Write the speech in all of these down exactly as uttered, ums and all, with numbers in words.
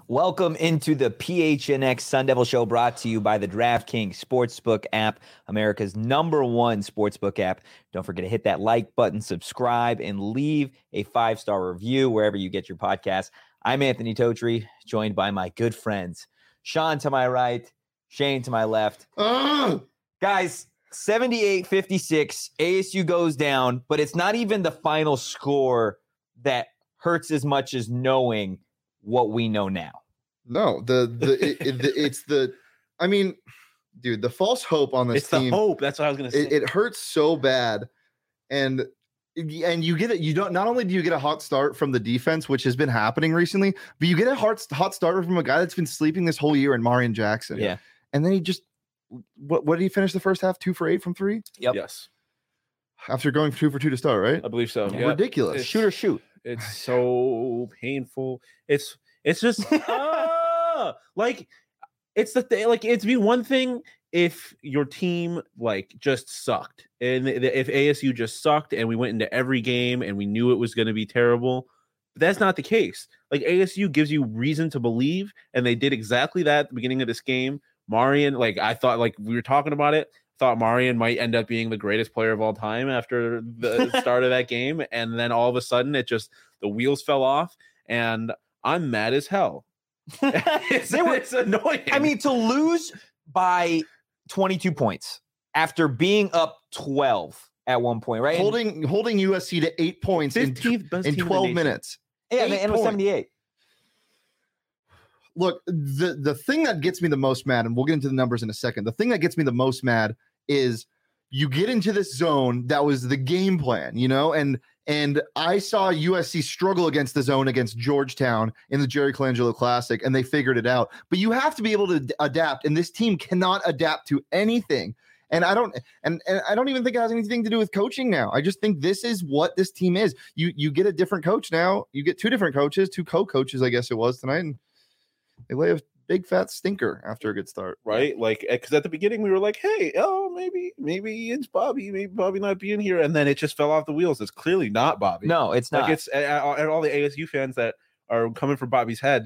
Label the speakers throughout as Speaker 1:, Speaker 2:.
Speaker 1: Welcome into the P H N X Sun Devil Show, brought to you by the DraftKings Sportsbook app, America's number one sportsbook app. Don't forget to hit that like button, subscribe, and leave a five-star review wherever you get your podcast. I'm Anthony Totri, joined by my good friends, Sean to my right, Shane to my left.
Speaker 2: Uh!
Speaker 1: Guys, seventy-eight fifty-six, A S U goes down, but it's not even the final score that hurts as much as knowing what we know now.
Speaker 2: No, the the, it, it, the it's the I mean, dude, the false hope on this
Speaker 3: it's
Speaker 2: team.
Speaker 3: It's the hope. That's what I was gonna say.
Speaker 2: It, it hurts so bad, and and you get it. You don't. Not only do you get a hot start from the defense, which has been happening recently, but you get a hot hot starter from a guy that's been sleeping this whole year in Marion Jackson.
Speaker 1: Yeah,
Speaker 2: and then he just what what did he finish the first half? Two for eight from three.
Speaker 1: Yep.
Speaker 3: Yes.
Speaker 2: After going two for two to start, right?
Speaker 3: I believe so.
Speaker 1: Yeah.
Speaker 3: Yep.
Speaker 2: Ridiculous.
Speaker 3: It's,
Speaker 1: shoot or shoot.
Speaker 3: It's so painful. It's it's just ah, like it's the thing. Like it's be one thing if your team like just sucked, and if A S U just sucked, and we went into every game and we knew it was going to be terrible. But that's not the case. Like A S U gives you reason to believe, and they did exactly that at the beginning of this game. Marion, like I thought, like we were talking about it. Thought Marion might end up being the greatest player of all time after the start of that game, and then all of a sudden it just the wheels fell off, and I'm mad as hell. it's,
Speaker 1: They were,
Speaker 3: it's annoying.
Speaker 1: I mean, to lose by twenty-two points after being up twelve at one point, right?
Speaker 2: Holding and, holding U S C to eight points in, in twelve minutes.
Speaker 1: Yeah, and it was seventy-eight.
Speaker 2: Look, the the thing that gets me the most mad, and we'll get into the numbers in a second. The thing that gets me the most mad is you get into this zone that was the game plan, you know, and and I saw U S C struggle against the zone against Georgetown in the Jerry Colangelo Classic, and they figured it out. But you have to be able to d- adapt, and this team cannot adapt to anything. And I don't, and, and I don't even think it has anything to do with coaching now. I just think this is what this team is. You you get a different coach now. You get two different coaches, two co-coaches, I guess it was tonight, and they lay a big fat stinker after a good start,
Speaker 3: right? Like, because at the beginning we were like, "Hey, oh, maybe, maybe it's Bobby, maybe Bobby not being here," and then it just fell off the wheels. It's clearly not Bobby.
Speaker 1: No, it's not.
Speaker 3: Like it's and all the A S U fans that are coming for Bobby's head.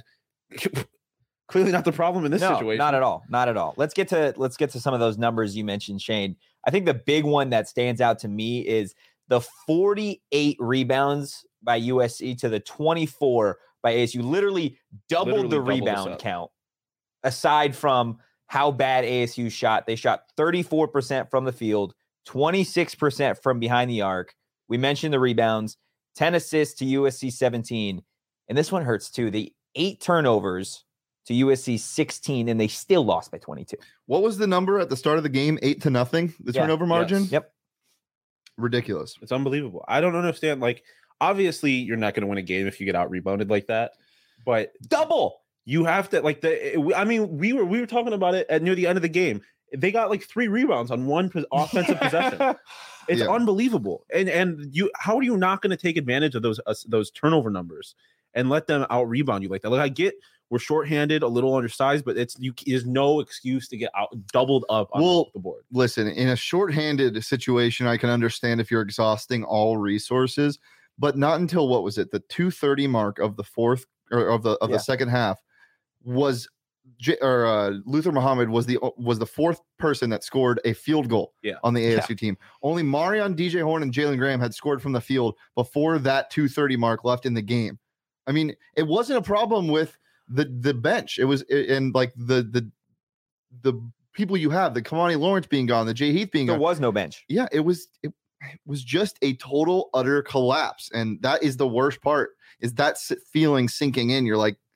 Speaker 3: Clearly not the problem in this
Speaker 1: no,
Speaker 3: situation.
Speaker 1: Not at all. Not at all. Let's get to let's get to some of those numbers you mentioned, Shane. I think the big one that stands out to me is the forty-eight rebounds by U S C to the twenty-four by A S U. Literally doubled
Speaker 3: Literally
Speaker 1: the
Speaker 3: doubled
Speaker 1: rebound count. Aside from how bad A S U shot, they shot thirty-four percent from the field, twenty-six percent from behind the arc. We mentioned the rebounds, ten assists to U S C seventeen. And this one hurts too. The eight turnovers to U S C sixteen, and they still lost by twenty-two.
Speaker 2: What was the number at the start of the game? Eight to nothing, the
Speaker 1: Yeah.
Speaker 2: turnover margin?
Speaker 3: Yes.
Speaker 1: Yep.
Speaker 2: Ridiculous.
Speaker 3: It's unbelievable. I don't understand. Like, obviously, you're not going to win a game if you get out rebounded like that. But
Speaker 1: Double.
Speaker 3: You have to like the. I mean, we were we were talking about it at near the end of the game. They got like three rebounds on one pos- offensive possession. It's
Speaker 2: Yeah.
Speaker 3: unbelievable. And and you, how are you not going to take advantage of those uh, those turnover numbers and let them out rebound you like that? Like I get we're shorthanded, a little undersized, but it's you. There's no excuse to get out doubled up on
Speaker 2: Well,
Speaker 3: the board.
Speaker 2: Listen, in a shorthanded situation, I can understand if you're exhausting all resources, but not until what was it, the two thirty mark of the fourth or of the of
Speaker 1: Yeah.
Speaker 2: the second half was J- or uh, Luther Muhammad was the was the fourth person that scored a field goal
Speaker 3: Yeah.
Speaker 2: on the A S U team. Only Marion, D J Horn, and Jalen Graham had scored from the field before that two thirty mark left in the game. I mean, it wasn't a problem with the the bench. It was and like the the the people you have, the Kamani Lawrence being gone, the Jay Heath being
Speaker 1: There
Speaker 2: gone.
Speaker 1: was no bench.
Speaker 2: Yeah, it was it, it was just a total utter collapse, and that is the worst part. Is that s- feeling sinking in? You're like,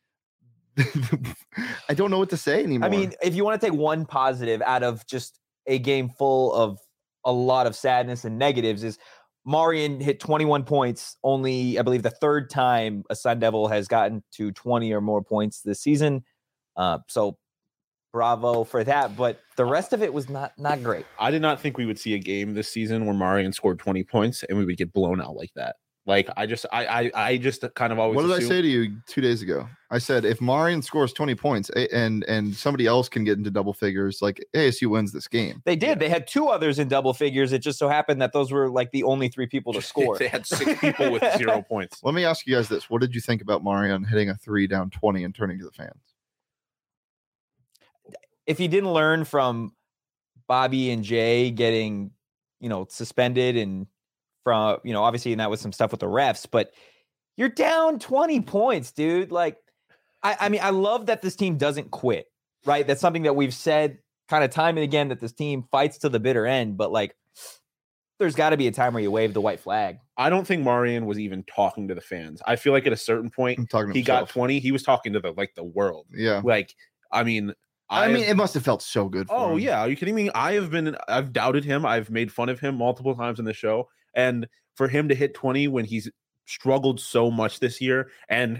Speaker 2: I don't know what to say anymore.
Speaker 1: I mean, if you want to take one positive out of just a game full of a lot of sadness and negatives, is Marion hit twenty-one points, only, I believe, the third time a Sun Devil has gotten to twenty or more points this season. Uh, so bravo for that. But the rest of it was not not great.
Speaker 3: I did not think we would see a game this season where Marion scored twenty points and we would get blown out like that. Like I just I I, I just kind of always.
Speaker 2: What did
Speaker 3: assume,
Speaker 2: I say to you two days ago? I said if Marion scores twenty points and and somebody else can get into double figures, like A S U wins this game.
Speaker 1: They did. Yeah. They had two others in double figures. It just so happened that those were like the only three people to score.
Speaker 3: They had six people with zero points.
Speaker 2: Let me ask you guys this: what did you think about Marion hitting a three down twenty and turning to the fans?
Speaker 1: If he didn't learn from Bobby and Jay getting, you know, suspended and from, you know, obviously, and that was some stuff with the refs, but you're down twenty points, dude. Like, I, I mean, I love that this team doesn't quit, right? That's something that we've said kind of time and again, that this team fights to the bitter end, but like, there's got to be a time where you wave the white flag.
Speaker 3: I don't think Marion was even talking to the fans. I feel like at a certain point, he
Speaker 2: himself.
Speaker 3: got twenty. He was talking to the, like the world.
Speaker 2: Yeah.
Speaker 3: Like, I mean,
Speaker 2: I, I mean, it must have felt so good. For
Speaker 3: oh
Speaker 2: him.
Speaker 3: yeah. Are you kidding me? I have been, I've doubted him. I've made fun of him multiple times in the show. And for him to hit twenty when he's struggled so much this year, and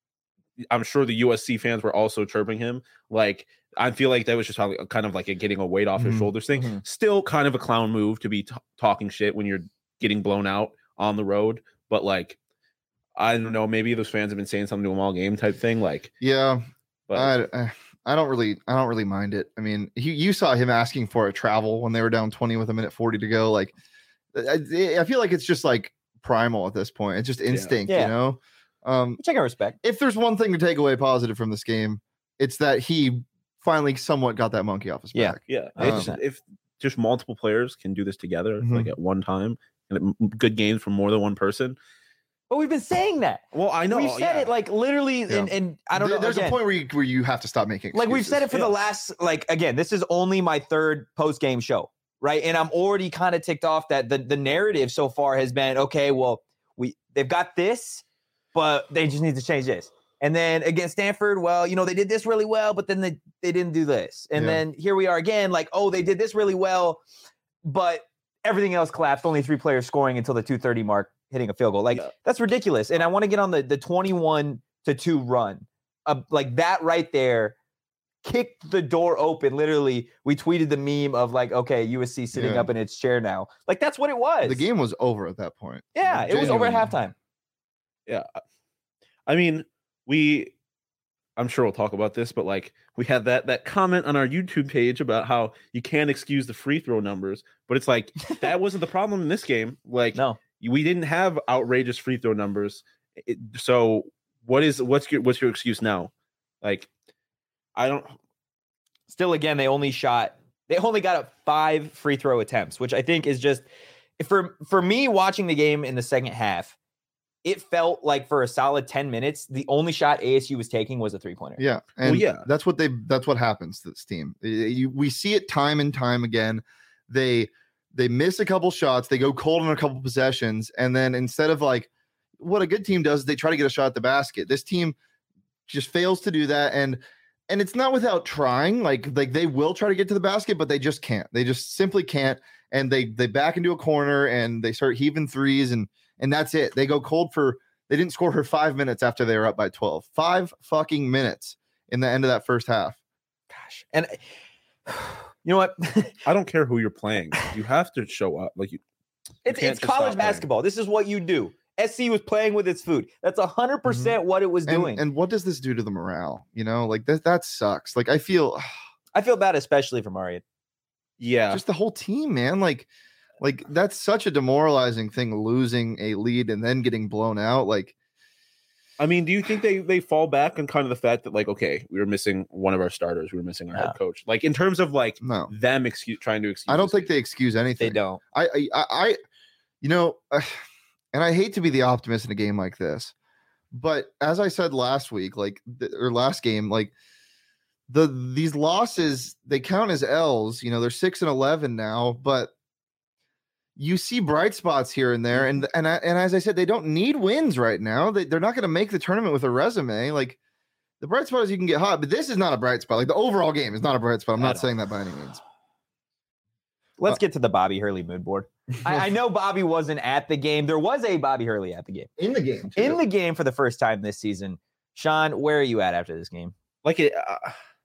Speaker 3: I'm sure the U S C fans were also chirping him, like, I feel like that was just how, kind of like a getting a weight off
Speaker 2: Mm-hmm.
Speaker 3: his shoulders thing.
Speaker 1: Mm-hmm.
Speaker 3: Still kind of a clown move to be t- talking shit when you're getting blown out on the road. But like, I don't know, maybe those fans have been saying something to him all game type thing. Like,
Speaker 2: yeah,
Speaker 3: but
Speaker 2: I, I don't really, I don't really mind it. I mean, he, you saw him asking for a travel when they were down twenty with a minute forty to go. Like, I, I feel like it's just like primal at this point. It's just instinct,
Speaker 1: Yeah.
Speaker 2: you know? Um,
Speaker 1: Which I can respect.
Speaker 2: If there's one thing to take away positive from this game, it's that he finally somewhat got that monkey off his
Speaker 1: Yeah.
Speaker 2: back.
Speaker 3: yeah,
Speaker 2: Um,
Speaker 3: it's, if just multiple players can do this together,
Speaker 2: Mhm.
Speaker 3: like at one time, and it, good games from more than one person.
Speaker 1: But we've been saying that.
Speaker 3: Well, I know
Speaker 1: We've said
Speaker 3: yeah.
Speaker 1: it like literally,
Speaker 2: Yeah.
Speaker 1: and, and I don't
Speaker 2: There-
Speaker 1: know.
Speaker 2: There's
Speaker 1: again,
Speaker 2: a point where you, where you have to stop making excuses.
Speaker 1: like we've said it for
Speaker 3: Yeah.
Speaker 1: the last, like, again, this is only my third post game show, right? And I'm already kind of ticked off that the, the narrative so far has been, okay, well, we they've got this, but they just need to change this. And then against Stanford, well, you know, they did this really well, but then they, they didn't do this. And
Speaker 2: Yeah.
Speaker 1: then here we are again, like, oh, they did this really well, but everything else collapsed. Only three players scoring until the two thirty mark, hitting a field goal. Like,
Speaker 3: Yeah.
Speaker 1: that's ridiculous. And I want to get on the, the twenty-one to two run. Uh, like that right there kicked the door open. Literally, we tweeted the meme of like, okay, U S C sitting
Speaker 2: Yeah.
Speaker 1: up in its chair now. Like, that's what it was.
Speaker 2: The game was over at that point.
Speaker 1: Yeah, it was over at
Speaker 2: Genuinely.
Speaker 1: halftime.
Speaker 3: Yeah. I mean, we I'm sure we'll talk about this, but like we had that that comment on our YouTube page about how you can't excuse the free throw numbers, but it's like that wasn't the problem in this game. Like
Speaker 1: No.
Speaker 3: we didn't have outrageous free throw numbers. It, so what is what's your what's your excuse now? Like I don't
Speaker 1: Still, again, they only shot, they only got up five free throw attempts, which I think is just, for for me watching the game in the second half, it felt like for a solid ten minutes, the only shot A S U was taking was a three pointer.
Speaker 2: Yeah, and
Speaker 3: Well, yeah.
Speaker 2: that's what they that's what happens to this team. Y- you- we see it time and time again. They they miss a couple shots, they go cold on a couple possessions, and then instead of like what a good team does, they try to get a shot at the basket. This team just fails to do that, and and it's not without trying. Like like they will try to get to the basket, but they just can't. They just simply can't, and they they back into a corner and they start heaving threes, and and that's it. They go cold for. They didn't score for five minutes after they were up by twelve. Five fucking minutes in the end of that first half.
Speaker 1: Gosh. And you know what?
Speaker 3: I don't care who you're playing. You have to show up. Like you
Speaker 1: It's,
Speaker 3: can't
Speaker 1: it's
Speaker 3: just
Speaker 1: college
Speaker 3: stop playing.
Speaker 1: basketball. This is what you do. S C was playing with its food. That's one hundred percent what it was
Speaker 2: And,
Speaker 1: doing.
Speaker 2: and what does this do to the morale? You know, like that that sucks. Like I feel
Speaker 1: I feel bad, especially for Marion.
Speaker 3: yeah.
Speaker 2: just the whole team, man. Like like that's such a demoralizing thing, losing a lead and then getting blown out. Like
Speaker 3: I mean, do you think they they fall back on kind of the fact that like, okay, we were missing one of our starters, we were missing our
Speaker 1: Yeah.
Speaker 3: head coach. Like in terms of like
Speaker 2: no.
Speaker 3: them excuse trying to excuse.
Speaker 2: I don't
Speaker 3: this
Speaker 2: think
Speaker 3: game.
Speaker 2: they excuse anything.
Speaker 1: They don't.
Speaker 2: I, I, I, I you know, uh, and I hate to be the optimist in a game like this, but as I said last week, like the, or last game, like the these losses they count as L's. You know, they're six and eleven now, but you see bright spots here and there, and and I, and as I said, they don't need wins right now. They, they're not going to make the tournament with a resume. Like the bright spot is you can get hot, but this is not a bright spot. Like the overall game is not a bright spot. I'm
Speaker 1: At
Speaker 2: not
Speaker 1: all.
Speaker 2: saying that by any means.
Speaker 1: Let's
Speaker 2: Uh,
Speaker 1: get to the Bobby Hurley mood board. I, I know Bobby wasn't at the game. There was a Bobby Hurley at the game.
Speaker 2: In the game,
Speaker 1: In the game for the first time this season. Sean, where are you at after this game?
Speaker 3: like it. Uh,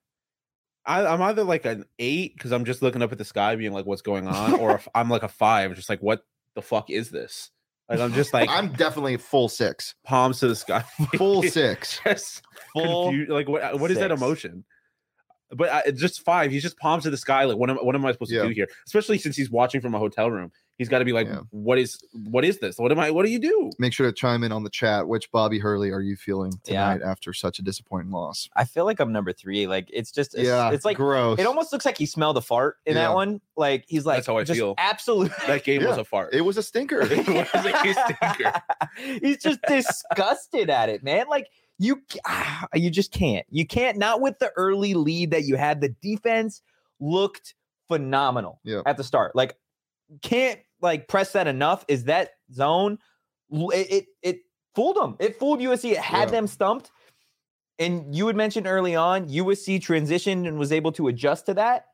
Speaker 3: I, I'm either like an eight because I'm just looking up at the sky, being like, "What's going on?" or if I'm like a five, just like, "What the fuck is this?" Like I'm just like
Speaker 2: I'm definitely full six,
Speaker 3: palms to the sky,
Speaker 2: full six,
Speaker 3: just
Speaker 1: Full
Speaker 3: confused. Like what? What is that
Speaker 1: six.
Speaker 3: emotion? But I, just five. He's just palms to the sky. Like what am what am I supposed
Speaker 2: Yeah.
Speaker 3: to do here? Especially since he's watching from a hotel room. He's got to be like,
Speaker 2: Yeah.
Speaker 3: what is what is this? What am I? What do you do?
Speaker 2: Make sure to chime in on the chat. Which Bobby Hurley are you feeling
Speaker 1: Yeah.
Speaker 2: tonight after such a disappointing loss?
Speaker 1: I feel like I'm number three. Like it's just it's,
Speaker 2: yeah,
Speaker 1: it's like
Speaker 2: gross.
Speaker 1: it almost looks like he smelled a fart in
Speaker 2: Yeah.
Speaker 1: that one. Like he's like
Speaker 3: That's how I
Speaker 1: just
Speaker 3: feel.
Speaker 1: absolute
Speaker 3: That game was
Speaker 2: Yeah.
Speaker 3: a fart.
Speaker 2: It was a stinker.
Speaker 3: It was a stinker.
Speaker 1: He's just disgusted at it, man. Like you, ah, you just can't. You can't. Not with the early lead that you had. The defense looked phenomenal
Speaker 2: Yeah.
Speaker 1: at the start. Like can't like press that enough. Is that zone? It it, it fooled them. It fooled U S C. It had
Speaker 2: Yeah.
Speaker 1: them stumped. And you had mentioned early on, U S C transitioned and was able to adjust to that.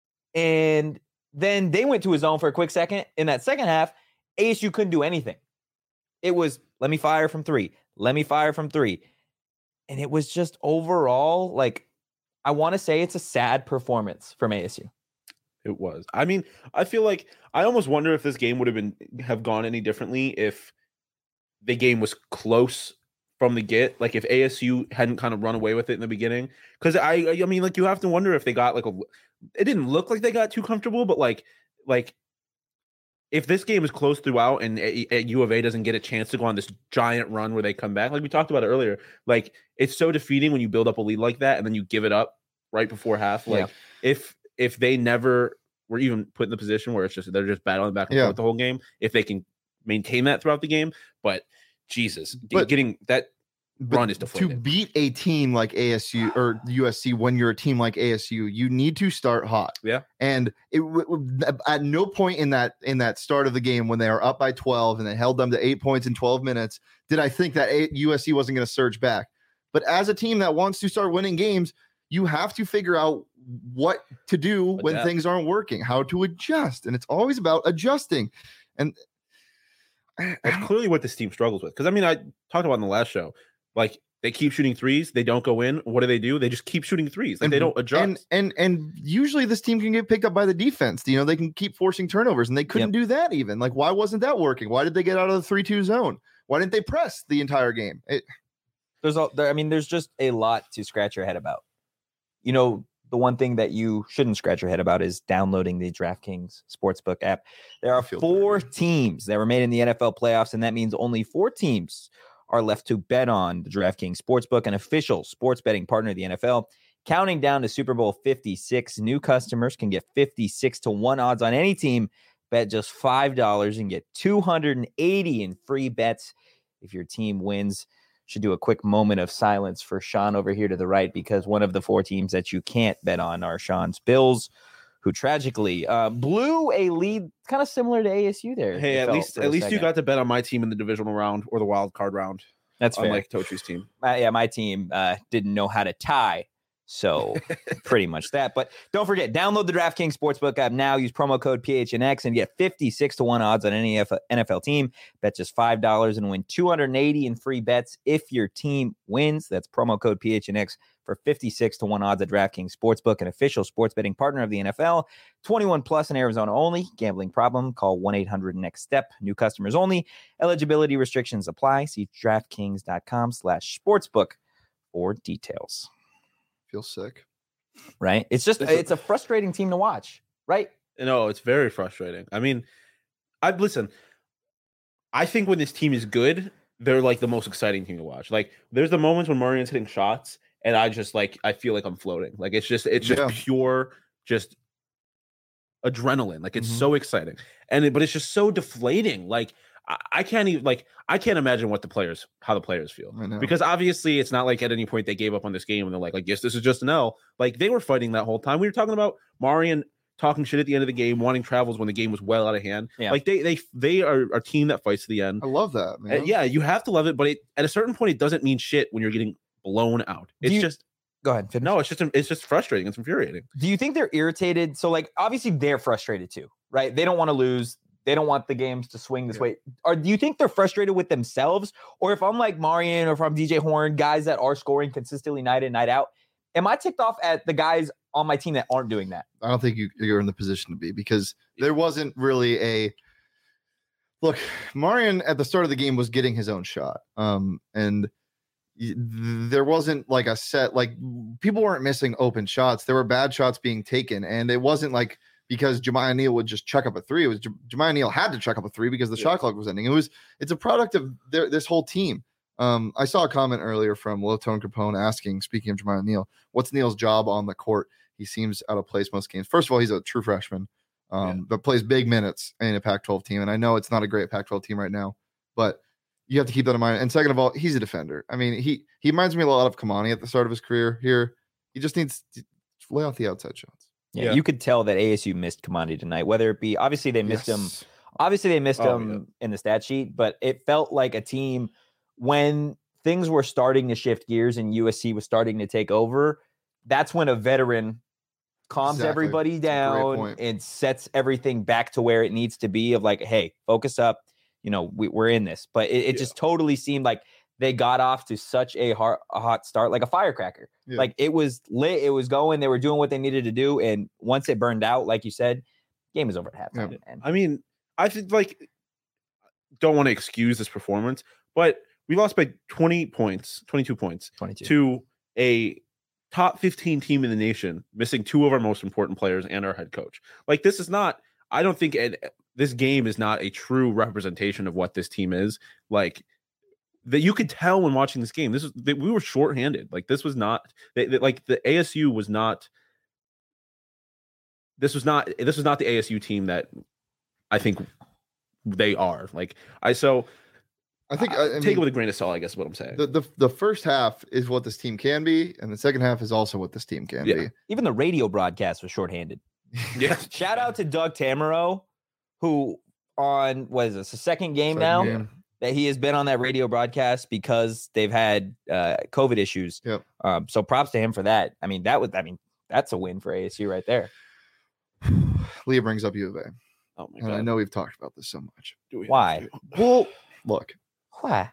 Speaker 1: And then they went to a zone for a quick second. In that second half, A S U couldn't do anything. It was, let me fire from three. Let me fire from three. And it was just overall, like, I want to say it's a sad performance from A S U.
Speaker 3: It was. I mean, I feel like I almost wonder if this game would have been have gone any differently if the game was close from the get. Like if A S U hadn't kind of run away with it in the beginning. Because I, I mean, like you have to wonder if they got like a. It didn't look like they got too comfortable, but like, like if this game is close throughout and a, a U of A doesn't get a chance to go on this giant run where they come back, like we talked about it earlier, like it's so defeating when you build up a lead like that and then you give it up right before half. Like
Speaker 1: Yeah.
Speaker 3: if if they never were even put in the position where it's just they're just battling back and
Speaker 2: Yeah.
Speaker 3: forth the whole game, if they can maintain that throughout the game, but Jesus,
Speaker 2: But-
Speaker 3: getting that
Speaker 2: But
Speaker 3: run is
Speaker 2: to
Speaker 3: deflated.
Speaker 2: beat a team like A S U or U S C when you're a team like A S U, you need to start hot.
Speaker 3: Yeah.
Speaker 2: And it w- w- at no point in that in that start of the game when they are up by twelve and they held them to eight points in twelve minutes did I think that a- U S C wasn't going to surge back. But as a team that wants to start winning games, you have to figure out what to do when
Speaker 3: Adapt.
Speaker 2: things aren't working, how to adjust, and it's always about adjusting. And
Speaker 3: That's clearly what this team struggles with. Because I mean, I talked about in the last show, like they keep shooting threes, they don't go in. What do they do? They just keep shooting threes. Like
Speaker 2: and
Speaker 3: they don't adjust.
Speaker 2: And and and usually this team can get picked up by the defense. You know, they can keep forcing turnovers, and they couldn't do that even. Like, why wasn't that working? Why did they get out of the three two zone? Why didn't they press the entire game? It,
Speaker 1: There's a, there, I mean, there's just a lot to scratch your head about. You know, the one thing that you shouldn't scratch your head about is downloading the DraftKings Sportsbook app. There are
Speaker 2: feel
Speaker 1: four teams that remain in the N F L playoffs, and that means only four teams are left to bet on. The DraftKings Sportsbook, an official sports betting partner of the N F L. Counting down to Super Bowl fifty-six, new customers can get fifty-six to one odds on any team. Bet just five dollars and get two hundred eighty in free bets if your team wins. Should do a quick moment of silence for Sean over here to the right, because one of the four teams that you can't bet on are Sean's Bills, who tragically uh, blew a lead kind of similar to A S U there.
Speaker 3: Hey,
Speaker 1: it
Speaker 3: at
Speaker 1: felt
Speaker 3: least
Speaker 1: for
Speaker 3: at
Speaker 1: a
Speaker 3: least you
Speaker 1: second.
Speaker 3: got to bet on my team in the divisional round or the wild card round,
Speaker 1: That's fair.
Speaker 3: unlike Tochi's team.
Speaker 1: Uh, yeah, my team uh, didn't know how to tie. So pretty much that. But don't forget, download the DraftKings Sportsbook app now. Use promo code P H N X and get fifty-six to one odds on any N F L team. Bet just five dollars and win two hundred eighty in free bets if your team wins. That's promo code P H N X for fifty-six to one odds at DraftKings Sportsbook, an official sports betting partner of the N F L. twenty-one plus in Arizona only. Gambling problem? Call one eight hundred next step. New customers only. Eligibility restrictions apply. See DraftKings.com slash sportsbook for details.
Speaker 2: feel sick.
Speaker 1: Right? It's just,
Speaker 3: It's a-
Speaker 1: it's a frustrating team to watch, right?
Speaker 3: No, it's very frustrating. I mean, I listen. I think when this team is good, they're like the most exciting team to watch. Like, there's the moments when Marion's hitting shots, and I just like I feel like I'm floating. Like it's just it's just
Speaker 2: Yeah.
Speaker 3: pure just adrenaline. Like it's
Speaker 2: Mhm.
Speaker 3: so exciting, and it, but it's just so deflating. Like I, I can't even like I can't imagine what the players how the players feel.
Speaker 2: I know.
Speaker 3: Because obviously it's not like at any point they gave up on this game and they're like, like, yes, this is just an L. Like they were fighting that whole time. We were talking about Marion talking shit at the end of the game, wanting travels when the game was well out of hand.
Speaker 1: Yeah.
Speaker 3: Like they they they are a team that fights to the end.
Speaker 2: I love that,
Speaker 3: Uh,
Speaker 2: man.
Speaker 3: yeah, you have to love it, but it, at a certain point, it doesn't mean shit when you're getting blown out.
Speaker 1: Do
Speaker 3: It's
Speaker 1: you-
Speaker 3: just
Speaker 1: Go ahead. Finish.
Speaker 3: no, it's just it's just frustrating. It's infuriating.
Speaker 1: Do you think they're irritated? So, like, obviously they're frustrated too, right? They don't want to lose. They don't want the games to swing this
Speaker 2: Yeah.
Speaker 1: way. Or do you think they're frustrated with themselves? Or if I'm like Marion or if I'm D J Horn, guys that are scoring consistently night in, night out, am I ticked off at the guys on my team that aren't doing that?
Speaker 2: I don't think you, you're in the position to be, because there wasn't really a Look, Marian at the start of the game was getting his own shot. Um, and y- there wasn't like a set, like people weren't missing open shots. There were bad shots being taken. And it wasn't like because Jemiah Neal would just chuck up a three. It was J- Jemiah Neal had to chuck up a three because the
Speaker 3: Yeah.
Speaker 2: shot clock was ending. It was, it's a product of their, this whole team. Um, I saw a comment earlier from Low Tone Capone asking, speaking of Jemiah Neal, what's Neal's job on the court? He seems out of place most games. First of all, he's a true freshman. Um,
Speaker 3: Yeah.
Speaker 2: but plays big minutes in a Pac twelve team. And I know it's not a great Pac twelve team right now, but you have to keep that in mind. And second of all, he's a defender. I mean, he he reminds me a lot of Kamani at the start of his career here. He just needs to lay off the outside shots.
Speaker 1: Yeah,
Speaker 3: Yeah.
Speaker 1: you could tell that A S U missed Kamani tonight, whether it be obviously they missed him.
Speaker 2: Yes.
Speaker 1: Obviously they missed
Speaker 3: Oh,
Speaker 1: him in the stat sheet, but it felt like a team when things were starting to shift gears and U S C was starting to take over. That's when a veteran calms
Speaker 2: Exactly.
Speaker 1: everybody
Speaker 2: That's a great
Speaker 1: down
Speaker 2: point.
Speaker 1: and sets everything back to where it needs to be of like, hey, focus up. You know, we, we're in this. But it, it
Speaker 3: Yeah.
Speaker 1: just totally seemed like they got off to such a hot, a hot start, like a firecracker.
Speaker 2: Yeah.
Speaker 1: Like it was lit. It was going. They were doing what they needed to do. And once it burned out, like you said, game is over at halftime. And
Speaker 3: I mean, I think like don't want to excuse this performance, but we lost by twenty points, twenty-two points
Speaker 1: twenty-two.
Speaker 3: to a top fifteen team in the nation, missing two of our most important players and our head coach. Like this is not, I don't think it, this game is not a true representation of what this team is. Like that you could tell when watching this game, this is that we were shorthanded. Like this was not they, they- like the A S U was not, this was not, this was not the A S U team that I think they are. Like I, so
Speaker 2: I think
Speaker 3: I,
Speaker 2: I, I
Speaker 3: take
Speaker 2: mean,
Speaker 3: it with a grain of salt, I guess is what I'm saying.
Speaker 2: the, the the first half is what this team can be, and the second half is also what this team can
Speaker 3: Yeah.
Speaker 2: be.
Speaker 1: even the radio broadcast was shorthanded.
Speaker 3: yeah.
Speaker 1: Shout out to Doug Tamaro, who on what is this, the second game
Speaker 2: Second
Speaker 1: now
Speaker 2: game.
Speaker 1: that he has been on that radio broadcast because they've had uh, COVID issues.
Speaker 2: Yep.
Speaker 1: Um, so props to him for that. I mean, that was, I mean, that's a win for A S U right there.
Speaker 2: Leah brings up U of A,
Speaker 3: Oh my
Speaker 2: and
Speaker 3: god.
Speaker 2: I know we've talked about this so much.
Speaker 3: Do we have
Speaker 1: Why?
Speaker 3: to?
Speaker 2: Well, look,
Speaker 1: Why?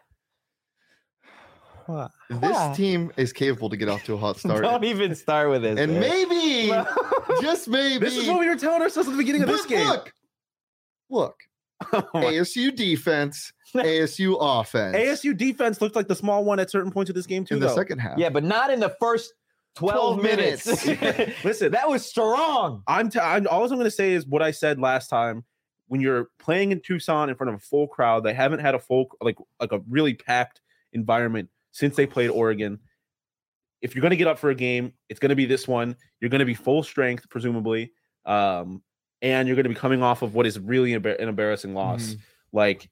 Speaker 1: Why?
Speaker 2: this
Speaker 1: Why?
Speaker 2: team is capable to get off to a hot start,
Speaker 1: Don't even start with this.
Speaker 2: and
Speaker 1: man.
Speaker 2: maybe,
Speaker 1: No.
Speaker 2: just maybe,
Speaker 3: This is what we were telling ourselves at the beginning of this
Speaker 2: But
Speaker 3: game.
Speaker 2: Look, look,
Speaker 3: Oh my-
Speaker 2: A S U defense, A S U offense,
Speaker 3: A S U defense looked like the small one at certain points of this game too.
Speaker 2: in the
Speaker 3: though.
Speaker 2: second half.
Speaker 1: Yeah, but not in the first twelve,
Speaker 2: twelve
Speaker 1: minutes.
Speaker 2: minutes.
Speaker 3: Listen,
Speaker 1: that was strong.
Speaker 3: I'm, t- I'm all I'm going to say is what I said last time. When you're playing in Tucson in front of a full crowd, they haven't had a full like like a really packed environment since they played Oregon. If you're going to get up for a game, it's going to be this one. You're going to be full strength, presumably, um, and you're going to be coming off of what is really an embarrassing loss.
Speaker 2: Mhm.
Speaker 3: Like,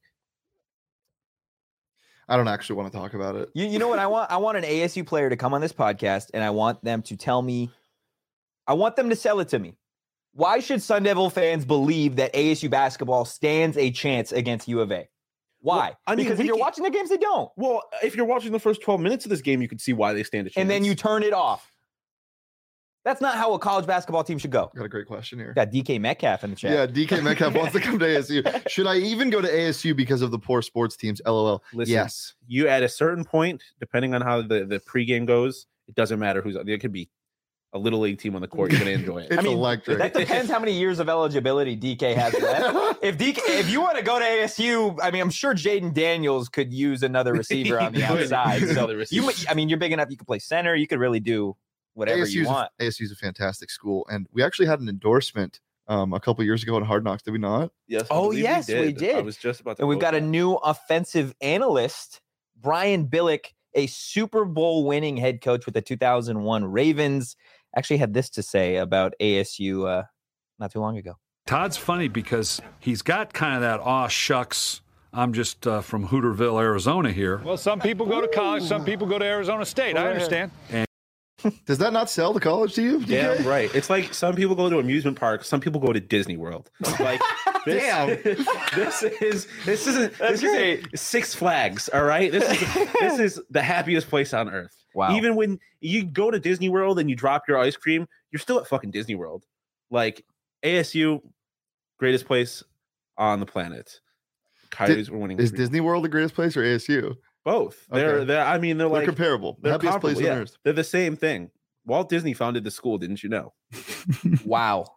Speaker 2: I don't actually want to talk about it.
Speaker 1: You, you know what I want? I want an A S U player to come on this podcast, and I want them to tell me. I want them to sell it to me. Why should Sun Devil fans believe that A S U basketball stands a chance against U of A? Why?
Speaker 3: Well, I mean,
Speaker 1: because
Speaker 3: we
Speaker 1: if you're
Speaker 3: can-
Speaker 1: watching the games, they don't.
Speaker 3: well, if you're watching the first twelve minutes of this game, you can see why they stand a chance.
Speaker 1: And then you turn it off. That's not how a college basketball team should go.
Speaker 2: Got a great question here.
Speaker 1: Got D K Metcalf in the chat.
Speaker 2: Yeah, D K Metcalf wants to come to A S U. Should I even go to A S U because of the poor sports teams? LOL.
Speaker 3: Listen,
Speaker 2: Yes.
Speaker 3: you at a certain point, depending on how the, the pregame goes, it doesn't matter who's there could be a little league team on the court. You're gonna enjoy it.
Speaker 2: It's
Speaker 1: I mean,
Speaker 2: electric.
Speaker 1: That depends how many years of eligibility D K has left. If D K, if you want to go to A S U, I mean, I'm sure Jaden Daniels could use another receiver on the
Speaker 3: He could.
Speaker 1: outside. So
Speaker 3: Another
Speaker 1: you,
Speaker 3: receiver.
Speaker 1: I mean, you're big enough. You could play center. You could really do whatever you
Speaker 2: A S U's a-
Speaker 1: want.
Speaker 2: A S U's a fantastic school, and we actually had an endorsement um, a couple years ago in Hard Knocks. Did we not?
Speaker 3: Yes. I
Speaker 1: Oh,
Speaker 3: believe
Speaker 1: yes, we
Speaker 3: I
Speaker 1: did.
Speaker 3: was just about to.
Speaker 1: And we've
Speaker 3: quote
Speaker 1: got a
Speaker 3: that.
Speaker 1: new offensive analyst, Brian Billick, a Super Bowl winning head coach with the two thousand one Ravens. Actually had this to say about A S U uh, not too long ago.
Speaker 4: Todd's funny because he's got kind of that aw shucks. I'm just uh, from Hooterville, Arizona here.
Speaker 5: Well, some people go to college, some people go to Arizona State. I understand.
Speaker 2: Does that not sell to college to you? D K?
Speaker 3: Damn right. It's like some people go to amusement parks, some people go to Disney World. Like this,
Speaker 2: Damn.
Speaker 3: this is this isn't this is a Six Flags. All right. This is this is the happiest place on earth.
Speaker 1: Wow.
Speaker 3: Even when you go to Disney World and you drop your ice cream, you're still at fucking Disney World. Like A S U, greatest place on the planet. Coyotes were winning.
Speaker 2: Is
Speaker 3: three-
Speaker 2: Disney World the greatest place or A S U?
Speaker 3: both? They're
Speaker 2: Okay.
Speaker 3: they're. I mean, they're
Speaker 2: They're
Speaker 3: like
Speaker 2: comparable.
Speaker 3: they're
Speaker 2: Happiest place
Speaker 3: comparable,
Speaker 2: on
Speaker 3: yeah.
Speaker 2: earth.
Speaker 3: They're the same thing. Walt Disney founded the school, didn't you know?
Speaker 1: Wow.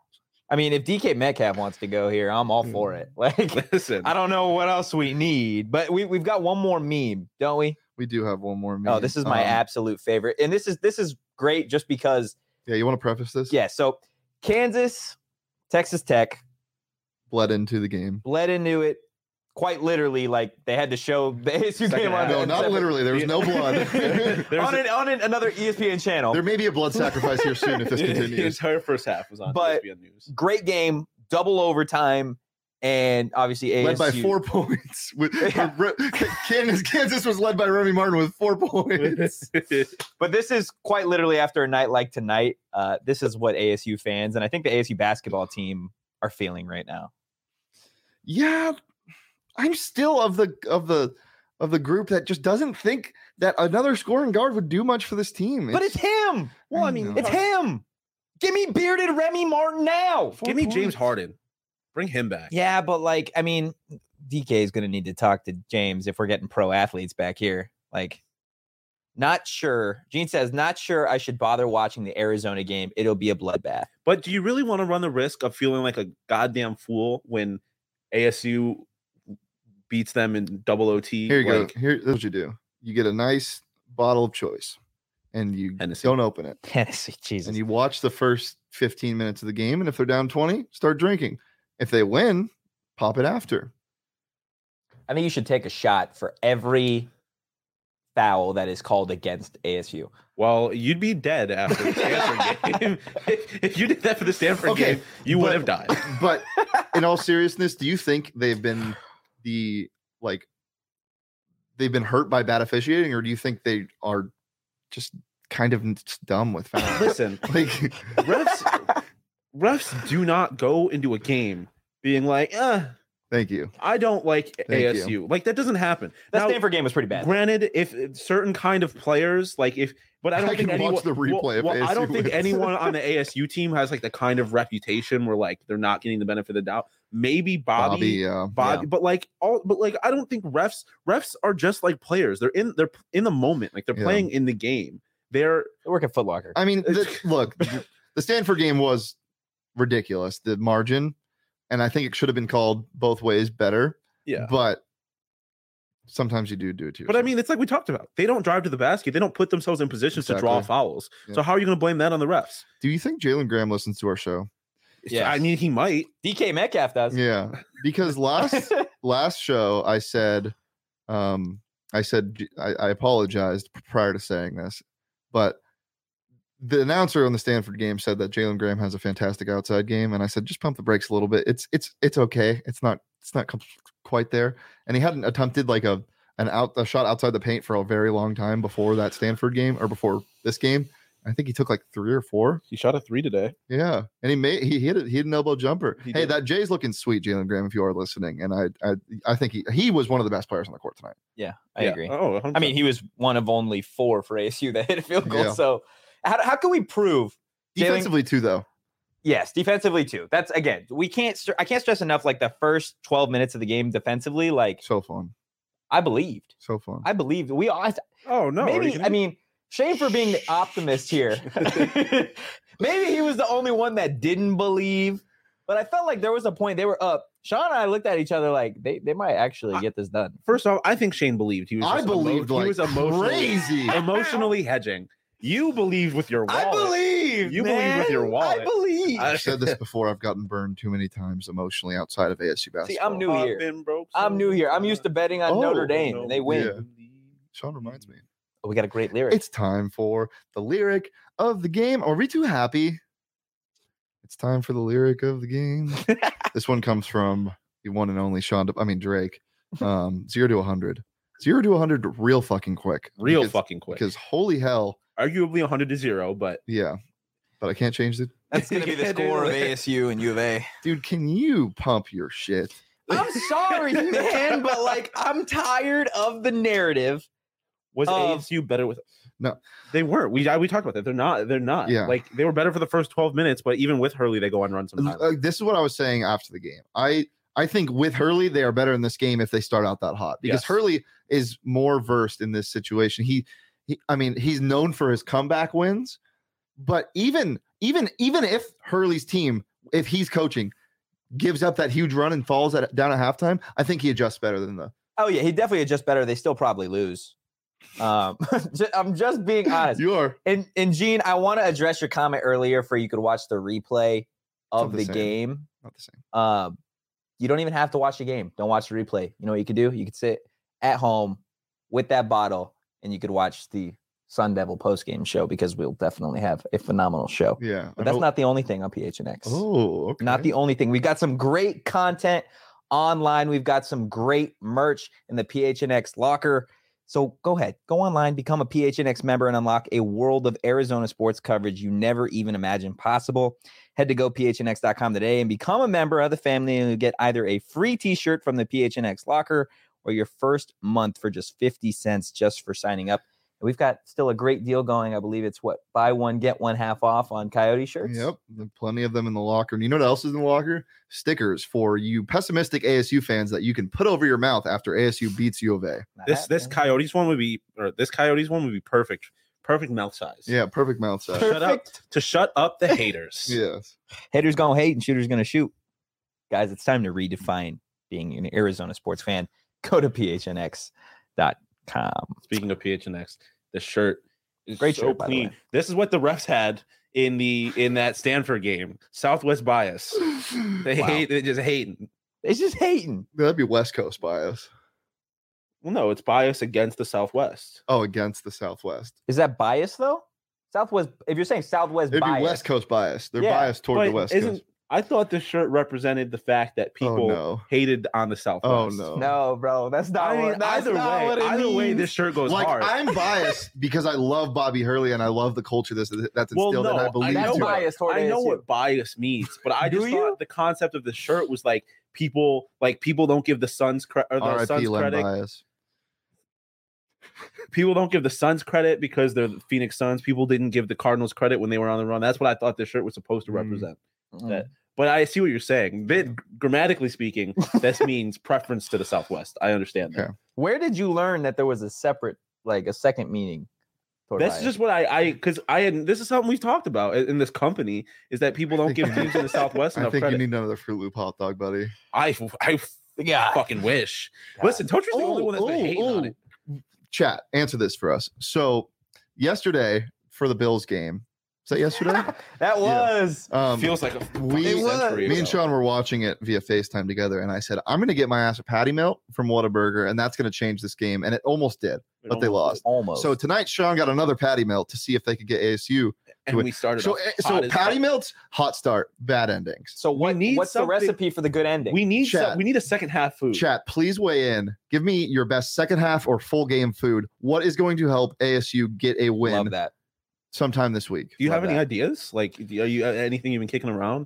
Speaker 1: I mean, if D K Metcalf wants to go here, I'm all for it. Like,
Speaker 3: Listen,
Speaker 1: I don't know what else we need, but we we've got one more meme, don't we?
Speaker 2: We do have one more. Meme.
Speaker 1: Oh, this is my
Speaker 2: um,
Speaker 1: absolute favorite, and this is this is great just because.
Speaker 2: Yeah, you want to preface this?
Speaker 1: Yeah. So Kansas, Texas Tech
Speaker 2: Bled into the game.
Speaker 1: bled into it. Quite literally, like they had to show the A S U
Speaker 3: Second
Speaker 1: game on.
Speaker 3: half.
Speaker 2: No,
Speaker 1: on
Speaker 2: not
Speaker 1: separate-
Speaker 2: literally. There was no blood.
Speaker 3: There's
Speaker 1: on,
Speaker 3: a-
Speaker 1: an, on an, another E S P N channel.
Speaker 2: There may be a blood sacrifice here soon if this
Speaker 3: the
Speaker 2: continues.
Speaker 3: entire first half was on
Speaker 1: But-
Speaker 3: E S P N News.
Speaker 1: Great game, double overtime, and obviously A S U
Speaker 2: Led by four points. With, Kansas, Kansas was led by Remy Martin with four points.
Speaker 1: But this is quite literally after a night like tonight. Uh, this is what A S U fans and I think the A S U basketball team are feeling right now.
Speaker 2: Yeah, I'm still of the of the of the group that just doesn't think that another scoring guard would do much for this team.
Speaker 1: But it's him.
Speaker 3: Well, I
Speaker 2: I
Speaker 3: mean,
Speaker 2: know.
Speaker 1: It's him. Give me bearded Remy Martin now.
Speaker 3: give me
Speaker 2: Four
Speaker 3: James
Speaker 2: points.
Speaker 3: Harden. Bring him back.
Speaker 1: Yeah, but like, I mean, D K is going to need to talk to James if we're getting pro athletes back here. Like, not sure. Gene says, not sure I should bother watching the Arizona game. It'll be a bloodbath.
Speaker 3: But do you really want to run the risk of feeling like a goddamn fool when A S U beats them in double O T?
Speaker 2: Here you
Speaker 3: like,
Speaker 2: go. Here, that's what you do. You get a nice bottle of choice, and you
Speaker 3: Hennessy.
Speaker 2: don't open it,
Speaker 1: Tennessee, Jesus.
Speaker 2: and you watch the first fifteen minutes of the game. And if they're down twenty, start drinking. If they win, pop it after.
Speaker 1: I think you should take a shot for every foul that is called against A S U.
Speaker 3: Well, you'd be dead after the Stanford game. if, if you did that for the Stanford
Speaker 2: Okay,
Speaker 3: game, you would
Speaker 2: but-
Speaker 3: have died.
Speaker 2: But in all seriousness, do you think they've been the like they've been hurt by bad officiating, or do you think they are just kind of just dumb with fouls?
Speaker 3: Listen,
Speaker 2: Like,
Speaker 3: refs refs do not go into a game being like, uh,
Speaker 2: thank you.
Speaker 3: I don't like
Speaker 2: Thank
Speaker 3: A S U. Like that doesn't happen.
Speaker 1: That
Speaker 3: Now,
Speaker 1: Stanford game was pretty bad.
Speaker 3: Granted, if certain kind of players, like if, but I don't
Speaker 2: I
Speaker 3: think
Speaker 2: can watch
Speaker 3: anyone.
Speaker 2: the replay
Speaker 3: well,
Speaker 2: if
Speaker 3: well, I
Speaker 2: A S U
Speaker 3: don't think
Speaker 2: wins.
Speaker 3: anyone on the A S U team has like the kind of reputation where like they're not getting the benefit of the doubt. Maybe Bobby,
Speaker 2: Bobby, uh,
Speaker 3: Bobby, but like all, but like I don't think refs refs are just like players. They're in they're in the moment, like they're
Speaker 2: Yeah.
Speaker 3: playing in the game. They're
Speaker 1: They work at Foot Locker.
Speaker 2: I mean, the, look, the Stanford game was ridiculous. The margin, and I think it should have been called both ways better.
Speaker 3: yeah.
Speaker 2: But sometimes you do do it too.
Speaker 3: But I mean, it's like we talked about. They don't drive to the basket. They don't put themselves in positions to draw
Speaker 2: Exactly.
Speaker 3: fouls.
Speaker 2: Yeah.
Speaker 3: So how are you going to blame that on the refs?
Speaker 2: do you think Jalen Graham listens to our show?
Speaker 1: Yes.
Speaker 3: I mean, he might.
Speaker 1: D K Metcalf does.
Speaker 2: Yeah, because last last show I said, um, I said J- I, I apologized prior to saying this, but the announcer on the Stanford game said that Jalen Graham has a fantastic outside game, and I said just pump the brakes a little bit. It's it's it's okay. It's not it's not com- quite there, and he hadn't attempted like a an out a shot outside the paint for a very long time before that Stanford game or before this game. I think he took like three or four.
Speaker 3: He shot a three today.
Speaker 2: Yeah, and he made he hit it. He hit an elbow jumper.
Speaker 3: He
Speaker 2: hey,
Speaker 3: did.
Speaker 2: that Jay's looking sweet, Jalen Graham. If you are listening, and I I I think he he was one of the best players on the court tonight.
Speaker 1: Yeah, I
Speaker 3: Yeah.
Speaker 1: agree.
Speaker 3: Oh, one hundred percent.
Speaker 1: I mean, he was one of only four for A S U that hit a field goal.
Speaker 2: Yeah.
Speaker 1: So how, how can we prove? Jalen-
Speaker 2: Defensively too, though.
Speaker 1: Yes, defensively too. That's again, we can't. str- I can't stress enough. Like the first twelve minutes of the game defensively, like
Speaker 2: So fun,
Speaker 1: I believed.
Speaker 2: so fun.
Speaker 1: I believed. We all.
Speaker 3: oh no. are you
Speaker 1: maybe.
Speaker 3: kidding
Speaker 1: I
Speaker 3: me?
Speaker 1: mean, shame for being the optimist here. Maybe he was the only one that didn't believe. But I felt like there was a point they were up. Sean and I looked at each other like they, they might actually get this done.
Speaker 3: First off, I think Shane believed. He was.
Speaker 2: I
Speaker 3: just emo-
Speaker 2: believed
Speaker 3: he
Speaker 2: like
Speaker 3: was emotionally,
Speaker 2: crazy.
Speaker 3: emotionally hedging. You believed with your wallet.
Speaker 1: believe.
Speaker 3: You believe with your wallet.
Speaker 1: I believe.
Speaker 3: I-
Speaker 2: I've said this before. I've gotten burned too many times emotionally outside of A S U basketball.
Speaker 1: See, I'm new
Speaker 3: I've
Speaker 1: here.
Speaker 3: been broke
Speaker 1: I'm
Speaker 3: so
Speaker 1: new here. I'm used to betting on
Speaker 2: Oh,
Speaker 1: Notre Dame, and they win.
Speaker 2: yeah. Sean reminds me.
Speaker 1: Oh, we got a great lyric.
Speaker 2: It's time for the lyric of the game. Are we too happy? It's time for the lyric of the game. This one comes from the one and only Sean. De- I mean Drake. Um, zero to a hundred. Zero to a hundred, real fucking quick.
Speaker 3: real
Speaker 2: because,
Speaker 3: fucking quick.
Speaker 2: Because holy hell,
Speaker 3: Arguably one hundred to zero, but
Speaker 2: yeah. But I can't change it,
Speaker 1: That's going to be the
Speaker 3: Yeah, dude.
Speaker 1: score of A S U and U of A.
Speaker 2: dude. Can you pump your shit?
Speaker 1: I'm sorry, man, but like I'm tired of the narrative.
Speaker 3: was
Speaker 1: Um,
Speaker 3: A S U better with?
Speaker 2: No.
Speaker 3: they weren't. We I- we talked about that. They're not. They're not.
Speaker 2: Yeah.
Speaker 3: like they were better for the first twelve minutes, but even with Hurley, they go on run sometimes.
Speaker 2: Uh, this is what I was saying after the game. I I think with Hurley, they are better in this game if they start out that hot because
Speaker 3: Yes.
Speaker 2: Hurley is more versed in this situation. He, he, I mean, he's known for his comeback wins, but even even even if Hurley's team if he's coaching, gives up that huge run and falls at, down at halftime, I think he adjusts better than the.
Speaker 1: Oh yeah, he definitely adjusts better. They still probably lose. Um, I'm just being honest.
Speaker 2: You are.
Speaker 1: And and Gene, I want to address your comment earlier for you could watch the replay of
Speaker 2: the
Speaker 1: the
Speaker 2: same.
Speaker 1: game.
Speaker 2: Not the same.
Speaker 1: Um, you don't even have to watch the game. Don't watch the replay. You know what you could do? You could sit at home with that bottle and you could watch the Sun Devil post-game show because we'll definitely have a phenomenal show.
Speaker 2: Yeah.
Speaker 1: But that's not the only thing on P H N X.
Speaker 2: Oh, okay.
Speaker 1: Not the only thing. We've got some great content online. We've got some great merch in the P H N X locker. So go ahead, go online, become a P H N X member, and unlock a world of Arizona sports coverage you never even imagined possible. Head to go P H N X dot com today and become a member of the family, and you'll get either a free t-shirt from the P H N X locker or your first month for just fifty cents just for signing up. And we've got still a great deal going. I believe it's what, buy one, get one half off on Coyote shirts.
Speaker 2: Yep. There are plenty of them in the locker. And you know what else is in the locker? Stickers for you pessimistic A S U fans that you can put over your mouth after A S U beats U of A.
Speaker 3: This this Coyotes one would be, or this Coyotes one would be perfect, perfect mouth size.
Speaker 2: Yeah, perfect mouth size.
Speaker 3: Shut up
Speaker 1: Perfect.
Speaker 3: to shut up the haters.
Speaker 2: Yes.
Speaker 1: Haters gonna hate and shooters gonna shoot. Guys, it's time to redefine being an Arizona sports fan. Go to P H N X dot com.
Speaker 3: Speaking of P H N X, the shirt is
Speaker 1: Great
Speaker 3: so
Speaker 1: shirt, by the
Speaker 3: clean.
Speaker 1: way.
Speaker 3: This is what the refs had in the in that Stanford game. Southwest bias. They
Speaker 1: Wow.
Speaker 3: hate. They just hating.
Speaker 1: It's just hating.
Speaker 2: That'd be West Coast bias.
Speaker 3: Well, no, it's bias against the Southwest.
Speaker 2: Oh, against the Southwest.
Speaker 1: Is that bias though? Southwest. If you're saying Southwest
Speaker 2: It'd
Speaker 1: bias,
Speaker 2: be West Coast bias. They're
Speaker 1: Yeah,
Speaker 2: biased toward the
Speaker 3: But
Speaker 2: West
Speaker 3: isn't
Speaker 2: Coast.
Speaker 3: I thought this shirt represented the fact that people
Speaker 2: no.
Speaker 3: hated on the Southwest.
Speaker 2: Oh, no.
Speaker 1: no, bro, that's not.
Speaker 3: I mean,
Speaker 1: what, that's
Speaker 3: either
Speaker 1: not
Speaker 3: way,
Speaker 1: what it
Speaker 3: either way,
Speaker 1: means.
Speaker 3: this shirt goes
Speaker 2: Like,
Speaker 3: hard.
Speaker 2: I'm biased because I love Bobby Hurley and I love the culture that's, that's
Speaker 3: Well,
Speaker 2: instilled
Speaker 3: no,
Speaker 2: and I
Speaker 3: I
Speaker 2: believe
Speaker 1: That's
Speaker 3: know
Speaker 2: to it.
Speaker 1: bias toward
Speaker 3: I know
Speaker 1: A S U.
Speaker 3: what bias means, but I
Speaker 1: Do
Speaker 3: just
Speaker 1: you?
Speaker 3: thought the concept of the shirt was like people, like people don't give the Suns credit or the
Speaker 2: R I
Speaker 3: Suns
Speaker 2: P Len
Speaker 3: credit.
Speaker 2: bias.
Speaker 3: People don't give the Suns credit because they're the Phoenix Suns. People didn't give the Cardinals credit when they were on the run. That's what I thought this shirt was supposed to
Speaker 2: Mm.
Speaker 3: represent.
Speaker 1: Mm.
Speaker 3: That, but I see what you're saying. Bit, grammatically speaking, this means preference to the Southwest. I understand that.
Speaker 2: Okay.
Speaker 1: Where did you learn that there was a separate, like a second meaning? toward
Speaker 3: That's
Speaker 1: bias?
Speaker 3: just what I, I, because I had. This is something we've talked about in in this company is that people don't give teams in the Southwest
Speaker 2: I
Speaker 3: enough
Speaker 2: think
Speaker 3: credit.
Speaker 2: you need another Fruit Loop hot dog, buddy.
Speaker 3: I, I
Speaker 1: yeah.
Speaker 3: fucking wish.
Speaker 1: God.
Speaker 3: Listen, Tocher's the only one that's been
Speaker 2: Ooh,
Speaker 3: hating on
Speaker 2: ooh.
Speaker 3: it.
Speaker 2: Chat, answer this for us. So yesterday for the Bills game, is that yesterday?
Speaker 1: That was.
Speaker 2: Um,
Speaker 3: Feels like a
Speaker 2: we-
Speaker 3: fucking
Speaker 1: It was.
Speaker 3: century
Speaker 2: me and
Speaker 3: ago.
Speaker 2: Sean were watching it via FaceTime together, and I said, I'm going to get my ass a patty melt from Whataburger, and that's going to change this game. And it almost did,
Speaker 3: It
Speaker 2: but they
Speaker 3: almost
Speaker 2: lost.
Speaker 1: Almost.
Speaker 2: So tonight, Sean got another patty melt to see if they could get A S U.
Speaker 3: and we started.
Speaker 2: So,
Speaker 3: off
Speaker 2: eh,
Speaker 3: hot
Speaker 2: so
Speaker 3: as
Speaker 2: patty
Speaker 3: fuck.
Speaker 2: melts, hot start, bad endings.
Speaker 1: So what?
Speaker 3: need
Speaker 1: What's the
Speaker 3: something-
Speaker 1: recipe for the good ending?
Speaker 3: We need
Speaker 2: Chat.
Speaker 3: some, we need a second half food.
Speaker 2: Chat, please weigh in. Give me your best second half or full game food. What is going to help A S U get a win
Speaker 1: Love that.
Speaker 2: sometime this week?
Speaker 3: Do you
Speaker 1: Love
Speaker 3: have any
Speaker 1: that.
Speaker 3: ideas? Like, do- are you uh, anything you've been kicking around?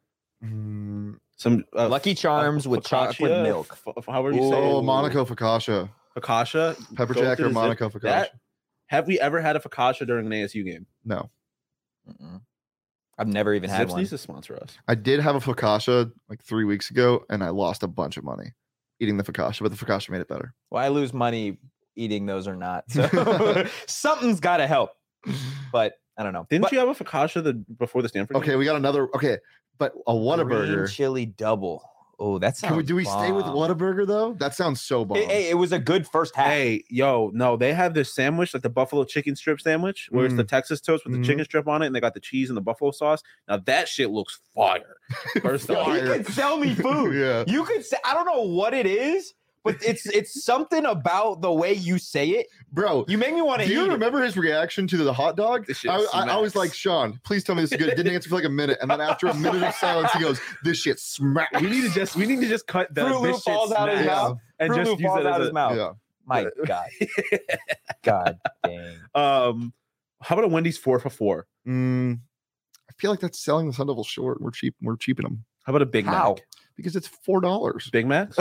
Speaker 2: Mm,
Speaker 3: Some uh,
Speaker 1: Lucky Charms with chocolate
Speaker 3: focaccia,
Speaker 1: milk.
Speaker 3: f- f- however you say
Speaker 2: oh,
Speaker 3: it.
Speaker 2: Monaco focaccia,
Speaker 3: Focaccia,
Speaker 2: pepper
Speaker 3: go
Speaker 2: jack
Speaker 3: to
Speaker 2: or
Speaker 3: the zip-
Speaker 2: Monaco focaccia.
Speaker 3: That, have we ever had a focaccia during an A S U game?
Speaker 2: No,
Speaker 1: Mm-mm. I've never even had
Speaker 3: Zips
Speaker 1: one.
Speaker 3: needs to sponsor us.
Speaker 2: I did have a focaccia like three weeks ago, and I lost a bunch of money eating the focaccia, but the focaccia made it better.
Speaker 1: Well, I lose money eating those or not. So something's got to help. But I don't know.
Speaker 3: Didn't
Speaker 1: But
Speaker 3: you have a focaccia the before the Stanford?
Speaker 2: Okay, we got another. Okay, but a
Speaker 1: green
Speaker 2: Whataburger.
Speaker 1: chili double. Oh, that sounds.
Speaker 2: Can we, do we stay with
Speaker 1: bomb.
Speaker 2: Whataburger though? That sounds so bomb.
Speaker 1: Hey, hey, it was a good first half.
Speaker 3: Hey, yo, no, they have this sandwich, like the buffalo chicken strip sandwich, where it's the Texas toast with
Speaker 2: Mhm.
Speaker 3: the chicken strip on it, and they got the cheese and the buffalo sauce. Now that shit looks fire. First
Speaker 1: Yo,
Speaker 3: off,
Speaker 1: he could sell me food.
Speaker 2: Yeah.
Speaker 1: You could say I don't know what it is, but it's it's something about the way you say it.
Speaker 2: Bro,
Speaker 1: You make me want to
Speaker 2: do
Speaker 1: eat
Speaker 2: you
Speaker 1: it.
Speaker 2: remember his reaction to the hot dog?
Speaker 3: This shit
Speaker 2: I, I, I was
Speaker 3: smacks.
Speaker 2: like, Sean, please tell me this is good. Didn't answer for like a minute, and then after a minute of silence, he goes, "This shit smacks."
Speaker 3: we need to just we need to just cut the
Speaker 1: Fruit Loop
Speaker 3: this shit
Speaker 1: falls out of his
Speaker 3: smacks
Speaker 1: mouth.
Speaker 3: and
Speaker 1: Fruit
Speaker 3: just
Speaker 1: Loop
Speaker 3: use
Speaker 1: falls
Speaker 3: it
Speaker 1: out
Speaker 3: as
Speaker 1: his
Speaker 3: a,
Speaker 1: mouth.
Speaker 2: Yeah.
Speaker 1: My God. God dang.
Speaker 3: um. How about a Wendy's four for four?
Speaker 2: Mm, I feel like that's selling the Sun Devils short. We're cheap. We're cheaping them
Speaker 3: How about a Big
Speaker 1: How?
Speaker 3: Mac?
Speaker 2: because it's four dollars.
Speaker 3: Big Macs?